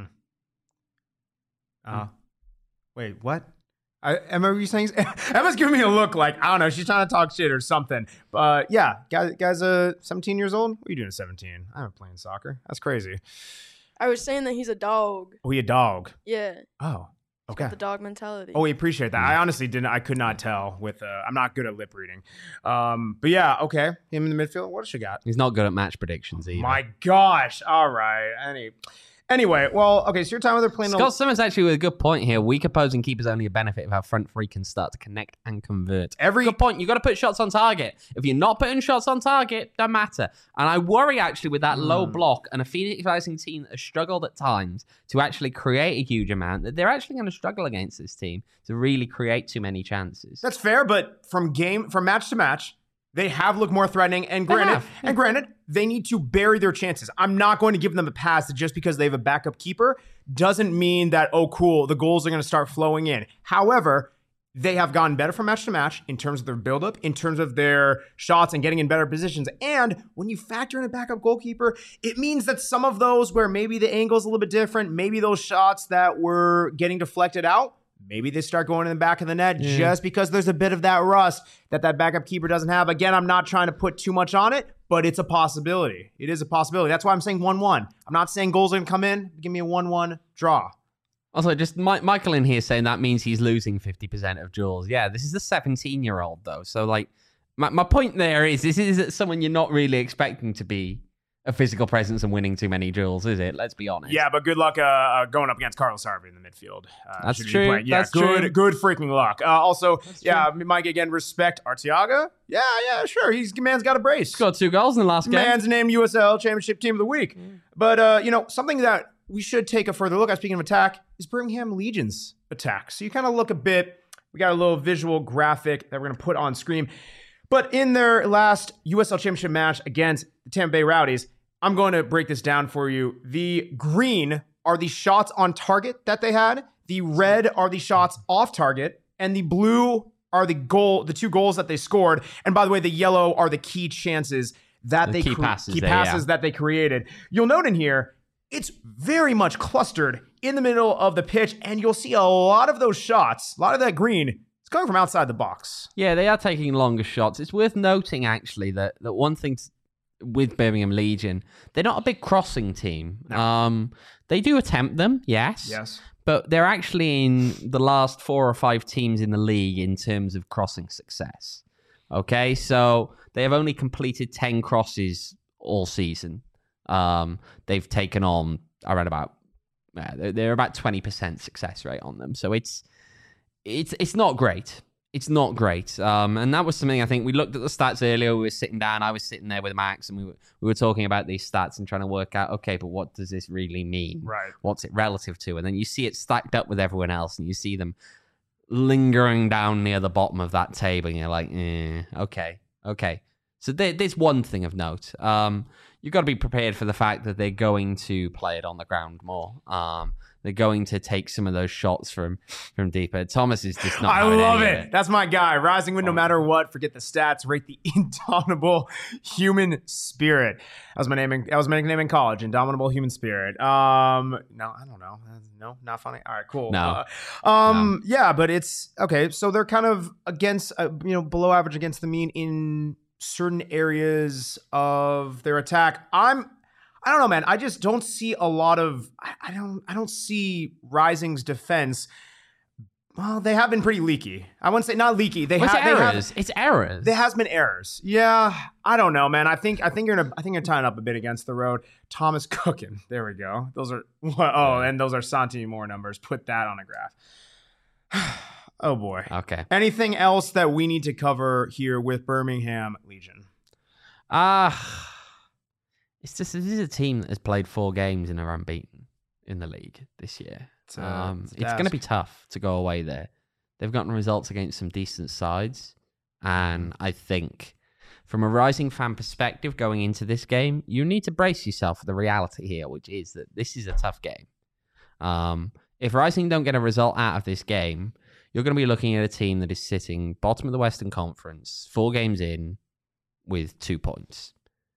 Uh, wait, what? I, Emma, were you saying? Emma's giving me a look like, I don't know, she's trying to talk shit or something. But yeah, guy, guy's uh, seventeen years old. What are you doing at seventeen? I'm playing soccer. That's crazy. I was saying that he's a dog. Oh, he a dog. Yeah. Oh, okay. The dog mentality. Oh, we appreciate that. I honestly didn't. I could not tell with. Uh, I'm not good at lip reading. Um, but yeah, okay. Him in the midfield. What does she got? He's not good at match predictions either. My gosh. All right. Any. Anyway, well, okay. So your time with her playing. Scott Simmons actually with a good point here. Weak opposing keepers only a benefit if our front three can start to connect and convert. Every- good point. You got to put shots on target. If you're not putting shots on target, don't matter. And I worry actually with that low Hmm. block and a Phoenix Rising team that has struggled at times to actually create a huge amount, that they're actually going to struggle against this team to really create too many chances. That's fair, but from game from match to match, they have looked more threatening. And They granted, have. and granted, they need to bury their chances. I'm not going to give them a pass that just because they have a backup keeper doesn't mean that, oh, cool, the goals are going to start flowing in. However, they have gotten better from match to match in terms of their buildup, in terms of their shots and getting in better positions. And when you factor in a backup goalkeeper, it means that some of those where maybe the angle's a little bit different, maybe those shots that were getting deflected out, maybe they start going in the back of the net Yeah. just because there's a bit of that rust that that backup keeper doesn't have. Again, I'm not trying to put too much on it, but it's a possibility. It is a possibility. That's why I'm saying one one. I'm not saying goals are going to come in. Give me a one one draw. Also, just Mi- Michael in here saying that means he's losing fifty percent of duels. Yeah, this is the seventeen-year-old, though. So, like, my, my point there is this is someone you're not really expecting to be a physical presence and winning too many duels, is it? Let's be honest. Yeah, but good luck uh, uh, going up against Carlos Harvey in the midfield. Uh, That's should be true. playing. Yeah, That's good, true. good freaking luck. Uh, also, yeah, Mike, again, respect Arteaga. Yeah, yeah, sure. He's man's got a brace. Scored two goals in the last game. Man's named U S L Championship Team of the Week. But, uh, you know, something that we should take a further look at, speaking of attack, is Birmingham Legion's attack. So you kind of look a bit, we got a little visual graphic that we're going to put on screen. But in their last U S L Championship match against the Tampa Bay Rowdies, I'm going to break this down for you. The green are the shots on target that they had. The red are the shots off target. And the blue are the goal, the two goals that they scored. And by the way, the yellow are the key chances that The they key cre- passes key there, passes yeah. that they created. You'll note in here, it's very much clustered in the middle of the pitch, and you'll see a lot of those shots, a lot of that green, it's coming from outside the box. Yeah, they are taking longer shots. It's worth noting, actually, that, that one thing t- with Birmingham Legion, they're not a big crossing team. No. Um, they do attempt them, yes. Yes. But they're actually in the last four or five teams in the league in terms of crossing success. Okay, so they have only completed ten crosses all season. Um, they've taken on around about uh, they're, they're about twenty percent success rate on them. So it's it's it's not great. It's not great. Um, and that was something I think we looked at the stats earlier. We were sitting down. I was sitting there with Max, and we were we were talking about these stats and trying to work out, okay, but what does this really mean? Right. What's it relative to? And then you see it stacked up with everyone else, and you see them lingering down near the bottom of that table, and you're like, eh, okay, okay. So there, there's one thing of note. Um, you've got to be prepared for the fact that they're going to play it on the ground more. Um, they're going to take some of those shots from from deeper. Thomas is just not. I having love any it. of it. That's my guy. Rising Wind, no matter what. Forget the stats. Rate the indomitable human spirit. That was my name. In, that was my nickname in college. Indomitable human spirit. Um, no, I don't know. No, not funny. All right, cool. No. Uh, um, no. Yeah, but it's okay. So they're kind of against, uh, you know, below average against the mean in certain areas of their attack. I'm. I don't know, man. I just don't see a lot of. I, I don't. I don't see Rising's defense. Well, they have been pretty leaky. I wouldn't say not leaky. They Well, have. it's They errors. have. It's errors. There has been errors. Yeah, I don't know, man. I think. I think you're. In a, I think you're tying up a bit against the road. Thomas cooking. There we go. Those are. Oh, and those are Santi Moore numbers. Put that on a graph. Oh boy. Okay. Anything else that we need to cover here with Birmingham Legion? Ah. Uh, It's just this is a team that has played four games and are unbeaten in the league this year. It's, uh, um, it's a it's going to task. be tough to go away there. They've gotten results against some decent sides, and I think from a Rising fan perspective going into this game, you need to brace yourself for the reality here, which is that this is a tough game. Um, if Rising don't get a result out of this game, you're going to be looking at a team that is sitting bottom of the Western Conference, four games in, with two points.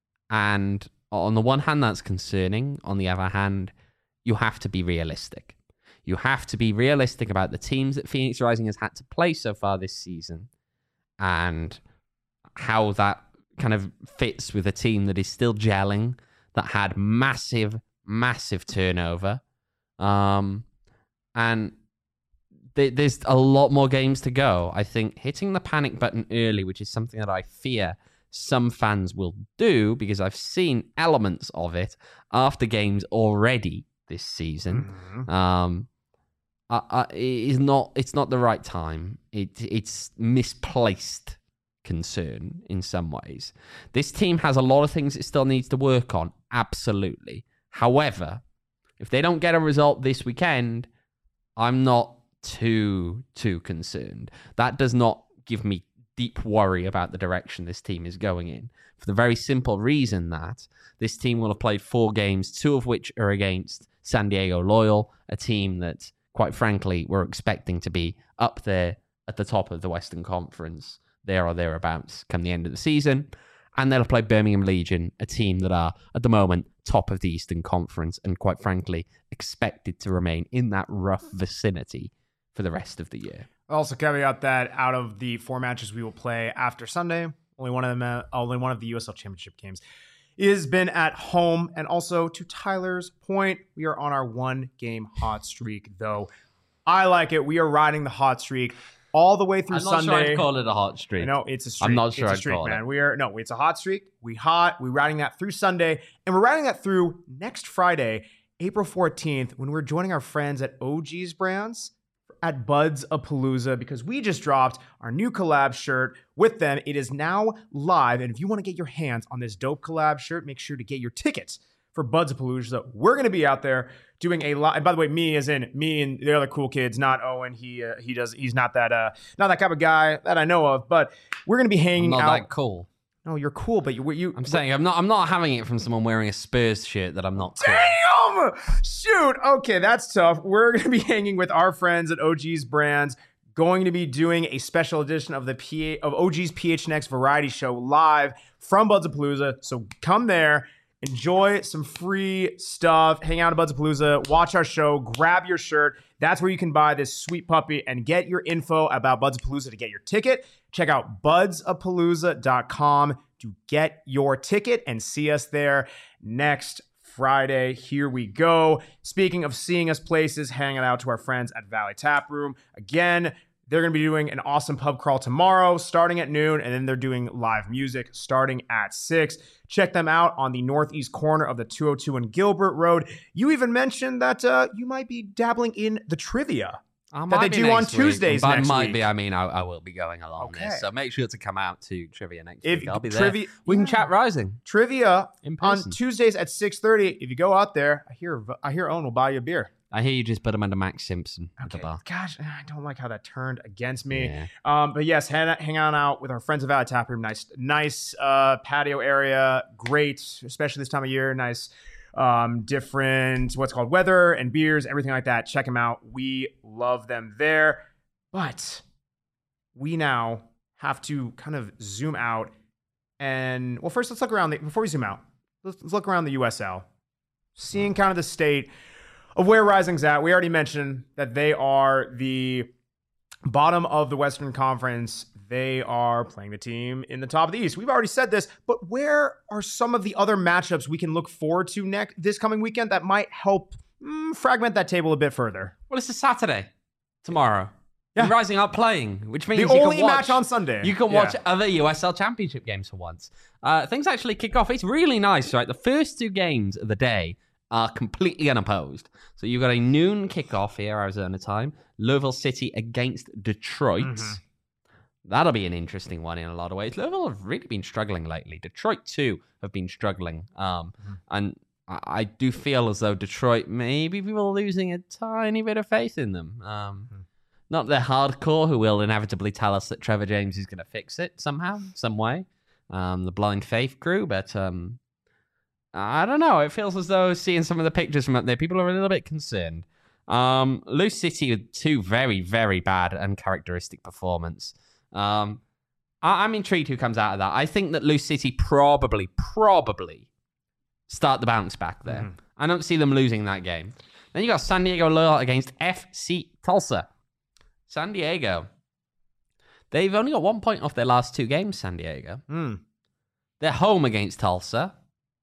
And on the one hand, that's concerning. On the other hand, you have to be realistic. You have to be realistic about the teams that Phoenix Rising has had to play so far this season and how that kind of fits with a team that is still gelling, that had massive, massive turnover. Um, and th- there's a lot more games to go. I think hitting the panic button early, which is something that I fear some fans will do because I've seen elements of it after games already this season. Mm-hmm. Um, I, I, it is not. It's not the right time. It it's misplaced concern in some ways. This team has a lot of things it still needs to work on. Absolutely. However, if they don't get a result this weekend, I'm not too too concerned. That does not give me deep worry about the direction this team is going in, for the very simple reason that this team will have played four games, two of which are against San Diego Loyal, a team that, quite frankly, we're expecting to be up there at the top of the Western Conference, there or thereabouts, come the end of the season. And they'll have played Birmingham Legion, a team that are, at the moment, top of the Eastern Conference and, quite frankly, expected to remain in that rough vicinity for the rest of the year. Also, caveat that out of the four matches we will play after Sunday, only one of them, uh, only one of the U S L Championship games is been at home. And also, to Tyler's point, we are on our one-game hot streak. Though I like it, we are riding the hot streak all the way through I'm not Sunday. sure I'd call it a hot streak. No, it's a streak. I'm not sure it's a I'd streak, call man. it. We are no, it's a hot streak. We hot. We're riding that through Sunday, and we're riding that through next Friday, April fourteenth, when we're joining our friends at O G's Brands at Buds a Palooza, because we just dropped our new collab shirt with them. It is now live, and if you want to get your hands on this dope collab shirt, make sure to get your tickets for Buds a Palooza. We're going to be out there doing a lot. And by the way, me as in me and the other cool kids, not Owen. He uh, he does. He's not that uh not that type of guy that I know of. But we're going to be hanging I'm not out. that cool. No, you're cool, but you you. I'm saying I'm not. I'm not having it from someone wearing a Spurs shirt that I'm not. Cool. Damn! Shoot. Okay, that's tough. We're going to be hanging with our friends at O G's Brands. Going to be doing a special edition of the P A, of O G's P H N X Variety Show live from Buds a Palooza. So come there, enjoy some free stuff, hang out at Buds a Palooza, watch our show, grab your shirt. That's where you can buy this sweet puppy and get your info about Buds a Palooza to get your ticket. Check out buds a palooza dot com to get your ticket and see us there next Friday. Here we go. Speaking of seeing us places, hanging out to our friends at Valley Tap Room. Again, they're going to be doing an awesome pub crawl tomorrow starting at noon, and then they're doing live music starting at six. Check them out on the northeast corner of the two oh two and Gilbert Road. You even mentioned that uh, you might be dabbling in the trivia I that they might be do on next week, Tuesdays but next might week. be. I mean, I, I will be going along Okay. this, so make sure to come out to trivia next If week. I'll be trivia- there. We can yeah. chat Rising Trivia in on person. Tuesdays at six thirty. If you go out there, I hear I hear Owen will buy you a beer. I hear you just put him under Max Simpson at the Okay. bar. Gosh, I don't like how that turned against me. Yeah. Um, but yes, hang, hang on out with our friends of Valley Tap Room. Nice, nice uh, patio area. Great, especially this time of year. Nice, um, different what's called weather and beers, everything like that. Check them out. We love them there. But we now have to kind of zoom out and well, first let's look around. The, before we zoom out, let's, let's look around the U S L, seeing kind of the state of where Rising's at. We already mentioned that they are the bottom of the Western Conference. They are playing the team in the top of the East. We've already said this, but where are some of the other matchups we can look forward to next this coming weekend that might help mm, fragment that table a bit further? Well, it's a Saturday tomorrow. Yeah. And Rising are playing, which means The you only can watch, match on Sunday. You can Yeah. watch other U S L Championship games for once. Uh, things actually kick off. It's really nice, right? The first two games of the day are completely unopposed. So you've got a noon kickoff here, Arizona time. Louisville City against Detroit. Mhm. That'll be an interesting one in a lot of ways. Louisville have really been struggling lately. Detroit, too, have been struggling. Um, Mhm. And I, I do feel as though Detroit, maybe people are losing a tiny bit of faith in them. Um, Mhm. Not the hardcore who will inevitably tell us that Trevor James is going to fix it somehow, some way. Um, the blind faith crew, but um, I don't know. It feels as though seeing some of the pictures from up there, people are a little bit concerned. Um, Loose City with two very, very bad uncharacteristic performance. Um, I- I'm intrigued who comes out of that. I think that Loose City probably, probably start the bounce back there. Mhm. I don't see them losing that game. Then you got San Diego Loyal against F C Tulsa. San Diego. They've only got one point off their last two games, San Diego. Mm. They're home against Tulsa.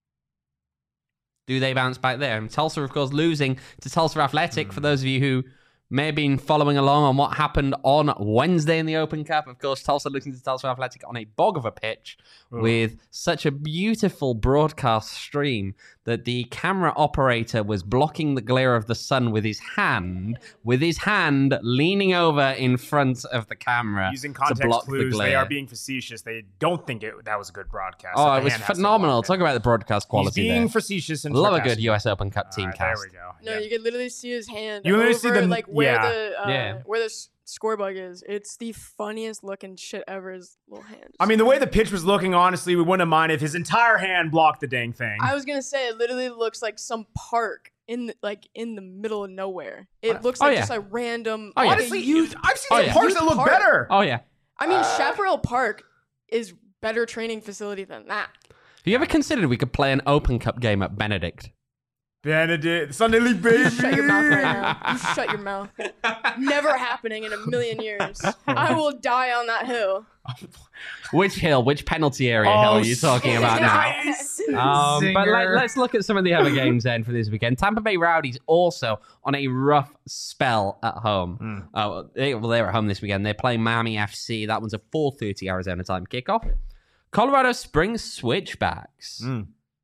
Do they bounce back there? And Tulsa, of course, losing to Tulsa Athletic. Mm. For those of you who may have been following along on what happened on Wednesday in the Open Cup, of course, Tulsa losing to Tulsa Athletic on a bog of a pitch Ugh. with such a beautiful broadcast stream that the camera operator was blocking the glare of the sun with his hand, with his hand leaning over in front of the camera Using to context block the clues, they glare. are being facetious. They don't think it that was a good broadcast. Oh, that it the was hand has to phenomenal. block it. Talk about the broadcast He's quality being there. facetious and Love a sarcastic. good U S Open Cup team All right, cast. There we go. No, Yeah. you could literally see his hand. You literally over, see the- like where yeah. the uh, Yeah. where the s- score bug is. It's the funniest looking shit ever. His little hand. I mean, the way the pitch was looking, honestly, we wouldn't have minded if his entire hand blocked the dang thing. I was gonna say it literally looks like some park in the, like in the middle of nowhere. It looks Oh, like yeah. just a random. Oh, yeah. like a Honestly, youth- I've seen Oh, some yeah. parks that Youth look park. better. Oh, yeah. I mean, Uh, Chaparral Park is better training facility than that. Have you ever considered we could play an Open Cup game at Benedict? Benedict, Sunday League, baby. Shut your mouth right now. You shut your mouth. Never happening in a million years. I will die on that hill. Which hill? Which penalty area Oh, hill are you talking about now? nice. Um, but let, Zinger. let's look at some of the other games then for this weekend. Tampa Bay Rowdies also on a rough spell at home. Mm. Oh, they, well, they're at home this weekend. They're playing Miami F C. That one's a four thirty Arizona time kickoff. Colorado Springs Switchbacks. Mm.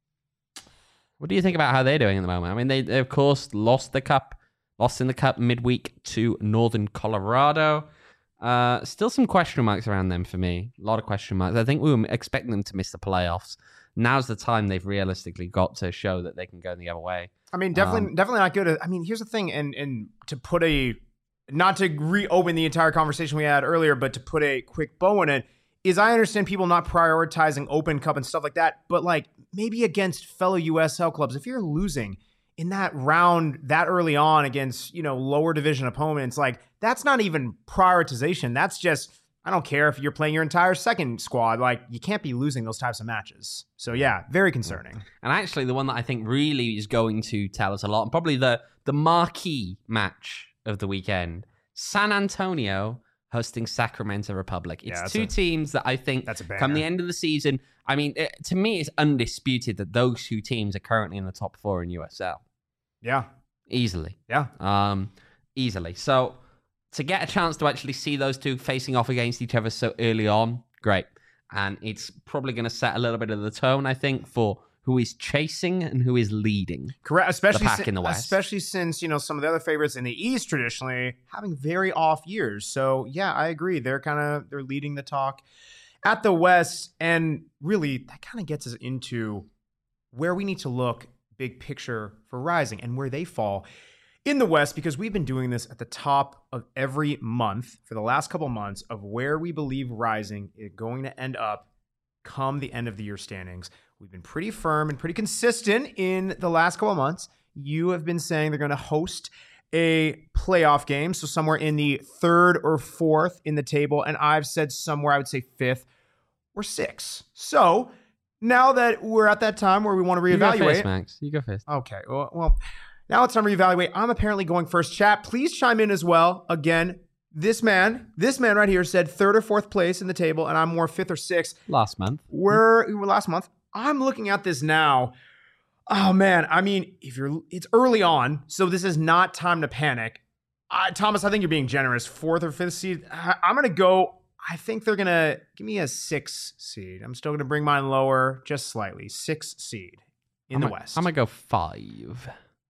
What do you think about how they're doing at the moment? I mean, they, they of course lost the cup, lost in the cup midweek to Northern Colorado. Uh, still some question marks around them for me. A lot of question marks. I think we were expecting them to miss the playoffs. Now's the time they've realistically got to show that they can go the other way. I mean, definitely, Um, definitely not good. I mean, here's the thing, and and to put a, not to reopen the entire conversation we had earlier, but to put a quick bow in it, is I understand people not prioritizing Open Cup and stuff like that, but like maybe against fellow U S L clubs, if you're losing in that round that early on against, you know, lower division opponents, like that's not even prioritization. That's just, I don't care if you're playing your entire second squad, like you can't be losing those types of matches. So yeah, very concerning. And actually, the one that I think really is going to tell us a lot, and probably the, the marquee match of the weekend, San Antonio hosting Sacramento Republic. It's Yeah, that's two a- teams that I think that's a come the banger. end of the season, I mean, it, to me, it's undisputed that those two teams are currently in the top four in U S L. Yeah, Easily. yeah. Um, easily. So to get a chance to actually see those two facing off against each other so early on, great. And it's probably going to set a little bit of the tone, I think, for who is chasing and who is leading. Correct, especially pack si- in the West. especially since you know some of the other favorites in the East traditionally having very off years. So yeah, I agree. They're kind of they're leading the talk at the West, and really that kind of gets us into where we need to look big picture for Rising and where they fall in the West, because we've been doing this at the top of every month for the last couple months of where we believe Rising is going to end up come the end of the year standings. We've been pretty firm and pretty consistent in the last couple months. You have been saying they're going to host a playoff game, so somewhere in the third or fourth in the table, and I've said somewhere I would say fifth or sixth. So now that we're at that time where we want to reevaluate. You go first, Max. You go first. Okay, well, well, now it's time to reevaluate. I'm apparently going first. Chat, please chime in as well. Again, this man, this man right here said third or fourth place in the table, and I'm more fifth or sixth. Last month. We're last month. I'm looking at this now. Oh man, I mean, if you're, it's early on, so this is not time to panic. Uh, Thomas, I think you're being generous. Fourth or fifth seed. I, I'm gonna go. I think they're gonna give me a six seed. I'm still gonna bring mine lower, just slightly. Six seed in I'm the a, West. I'm gonna go five.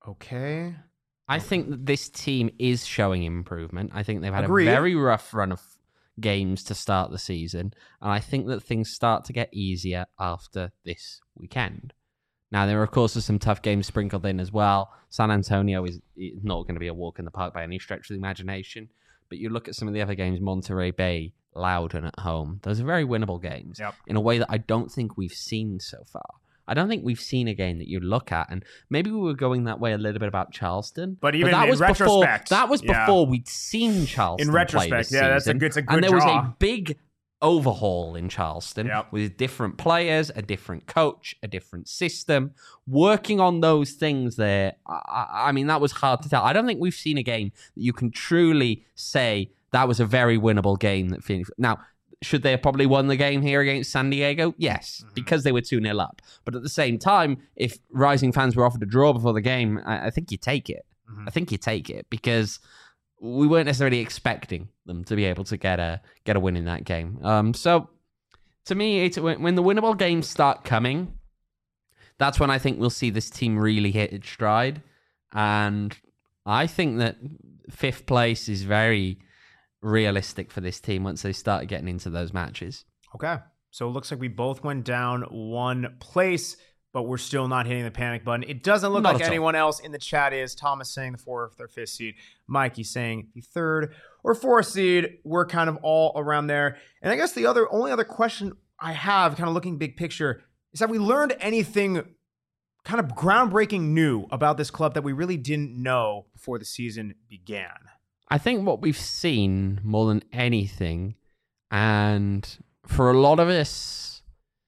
Okay. I think that this team is showing improvement. I think they've had Agreed. a very rough run of games to start the season, and I think that things start to get easier after this weekend. Now, there, of course, are some tough games sprinkled in as well. San Antonio is not going to be a walk in the park by any stretch of the imagination, but you look at some of the other games, Monterey Bay, Loudoun at home. Those are very winnable games Yep. in a way that I don't think we've seen so far. I don't think we've seen a game that you look at, and maybe we were going that way a little bit about Charleston. But even that in was retrospect, before, that was yeah. before we'd seen Charleston In play retrospect, this yeah, that's a season. good, it's a good And there draw. was a big overhaul in Charleston Yep. with different players, a different coach, a different system. Working on those things there, I, I mean, that was hard to tell. I don't think we've seen a game that you can truly say that was a very winnable game. That Phoenix. Now, should they have probably won the game here against San Diego? Yes, mm-hmm. because they were two nil up. But at the same time, if Rising fans were offered a draw before the game, I, I think you take it. Mm-hmm. I think you take it because we weren't necessarily expecting them to be able to get a get a win in that game. Um, so to me, it's, when, when the winnable games start coming, that's when I think we'll see this team really hit its stride. And I think that fifth place is very realistic for this team once they start getting into those matches. Okay. So it looks like we both went down one place, but we're still not hitting the panic button. It doesn't look Not like at all. anyone else in the chat is. Thomas saying the fourth or fifth seed. Mikey saying the third or fourth seed. We're kind of all around there. And I guess the other only other question I have, kind of looking big picture, is have we learned anything kind of groundbreaking new about this club that we really didn't know before the season began? I think what we've seen more than anything, and for a lot of us,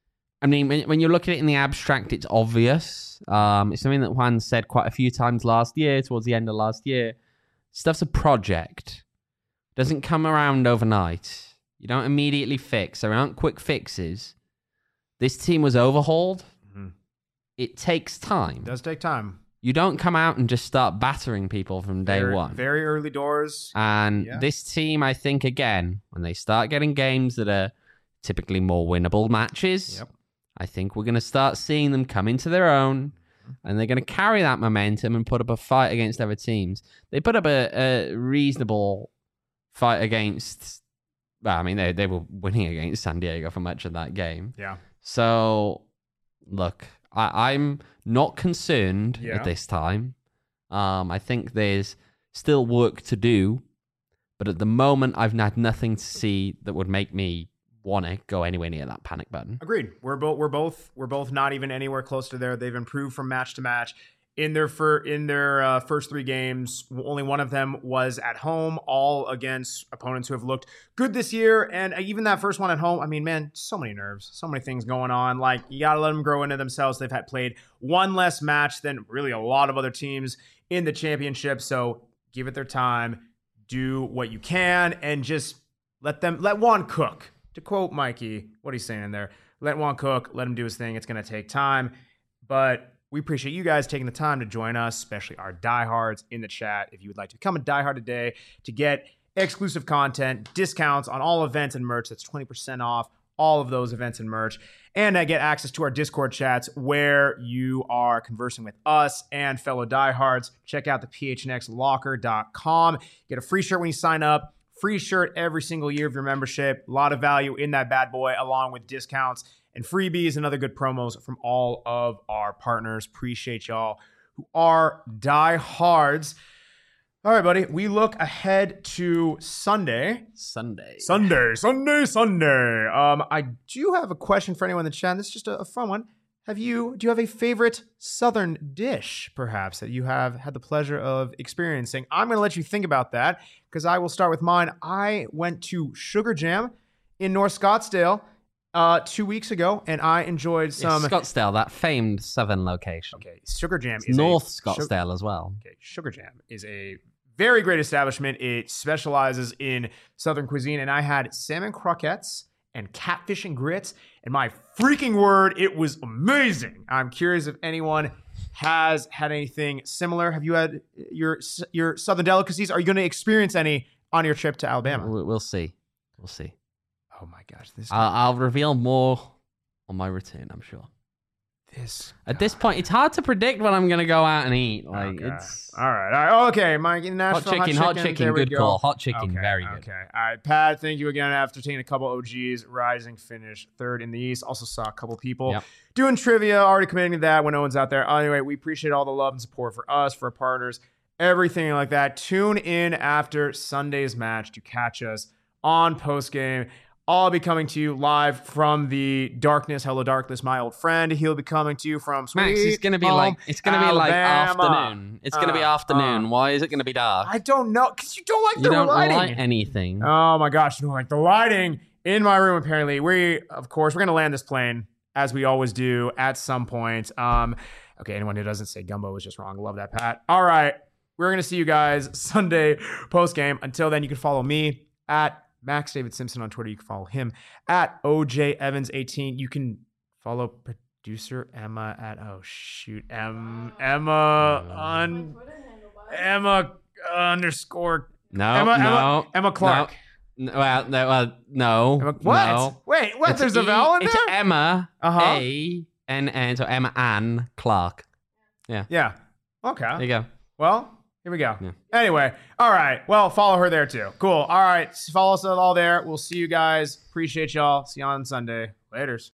I mean, when, when you look at it in the abstract, it's obvious. Um, it's something that Juan said quite a few times last year, towards the end of last year. Stuff's a project. It doesn't come around overnight. You don't immediately fix. There aren't quick fixes. This team was overhauled. Mm-hmm. It takes time. It does take time. You don't come out and just start battering people from day very, one. Very early doors. And yeah. this team, I think, again, when they start getting games that are typically more winnable matches, yep. I think we're going to start seeing them come into their own, and they're going to carry that momentum and put up a fight against other teams. They put up a, a reasonable fight against, well, I mean, they, they were winning against San Diego for much of that game. Yeah. So, look, I, I'm not concerned yeah. at this time. Um, I think there's still work to do, but at the moment, I've had nothing to see that would make me want to go anywhere near that panic button. Agreed. We're both we're both we're both not even anywhere close to there. They've improved from match to match. In their fir- in their uh, first three games, only one of them was at home, all against opponents who have looked good this year. And even that first one at home, I mean, man, so many nerves, so many things going on. Like, you got to let them grow into themselves. They've had played one less match than really a lot of other teams in the championship. So give it their time, do what you can, and just let them, let Juan cook. To quote Mikey, what he's saying in there, let Juan cook, let him do his thing. It's going to take time, but we appreciate you guys taking the time to join us, especially our diehards in the chat. If you would like to become a diehard today to get exclusive content, discounts on all events and merch, that's twenty percent off all of those events and merch, and uh, get access to our Discord chats where you are conversing with us and fellow diehards. Check out the p h n x locker dot com. Get a free shirt when you sign up. Free shirt every single year of your membership. A lot of value in that bad boy, along with discounts and freebies and other good promos from all of our partners. Appreciate y'all who are diehards. All right, buddy. We look ahead to Sunday. Sunday. Sunday, Sunday, Sunday. Um, I do have a question for anyone in the chat. This is just a, a fun one. Have you, do you have a favorite Southern dish, perhaps, that you have had the pleasure of experiencing? I'm going to let you think about that because I will start with mine. I went to Sugar Jam in North Scottsdale uh, two weeks ago, and I enjoyed some... Yeah, Scottsdale, that famed Southern location. Okay, Sugar Jam It's is North a, Scottsdale Sugar, as well. Okay, Sugar Jam is a very great establishment. It specializes in Southern cuisine, and I had salmon croquettes and catfish and grits, and my freaking word, it was amazing. I'm curious if anyone has had anything similar. Have you had your your Southern delicacies? Are you going to experience any on your trip to Alabama? We'll, we'll see. We'll see. Oh my gosh, this I'll, I'll reveal more on my return, I'm sure. this At this point, it's hard to predict when I'm going to go out and eat. Like Okay. it's all right, all right. Okay, Mike, Nashville, hot chicken, hot chicken, there we good go. call. Hot chicken, Okay, very good. Okay. All right, Pat, thank you again after taking a couple O Gs. Rising finish third in the East. Also saw a couple people Yep. doing trivia, already committing to that when no one's out there. Anyway, we appreciate all the love and support for us, for our partners, everything like that. Tune in after Sunday's match to catch us on postgame. I'll be coming to you live from the darkness. Hello, darkness, my old friend. He'll be coming to you from Sweet Max, it's gonna be Home, like it's gonna be like Alabama. afternoon. It's gonna be Uh, afternoon. uh. Why is it gonna be dark? I don't know, because you don't like you the don't lighting. like anything. Oh my gosh, you don't like the lighting in my room, apparently. We, of course, we're going to land this plane, as we always do, at some point. Um, okay, anyone who doesn't say Gumbo is just wrong. Love that, Pat. All right, we're going to see you guys Sunday post-game. Until then, you can follow me at Max David Simpson on Twitter. You can follow him at O J Evans eighteen. You can follow producer Emma at, oh shoot, M, Emma on, Emma underscore, No, Emma, no, Emma, Emma Clark. No, well, no, well, no. Emma, what? No. Wait, what? It's There's a E- vowel in it's there? Emma Uh-huh. A N N, so Emma Ann Clark. Yeah. Okay. There you go. Well, here we go. Yeah. Anyway, all right. Well, follow her there too. Cool. All right. Follow us all there. We'll see you guys. Appreciate y'all. See you on Sunday. Laters.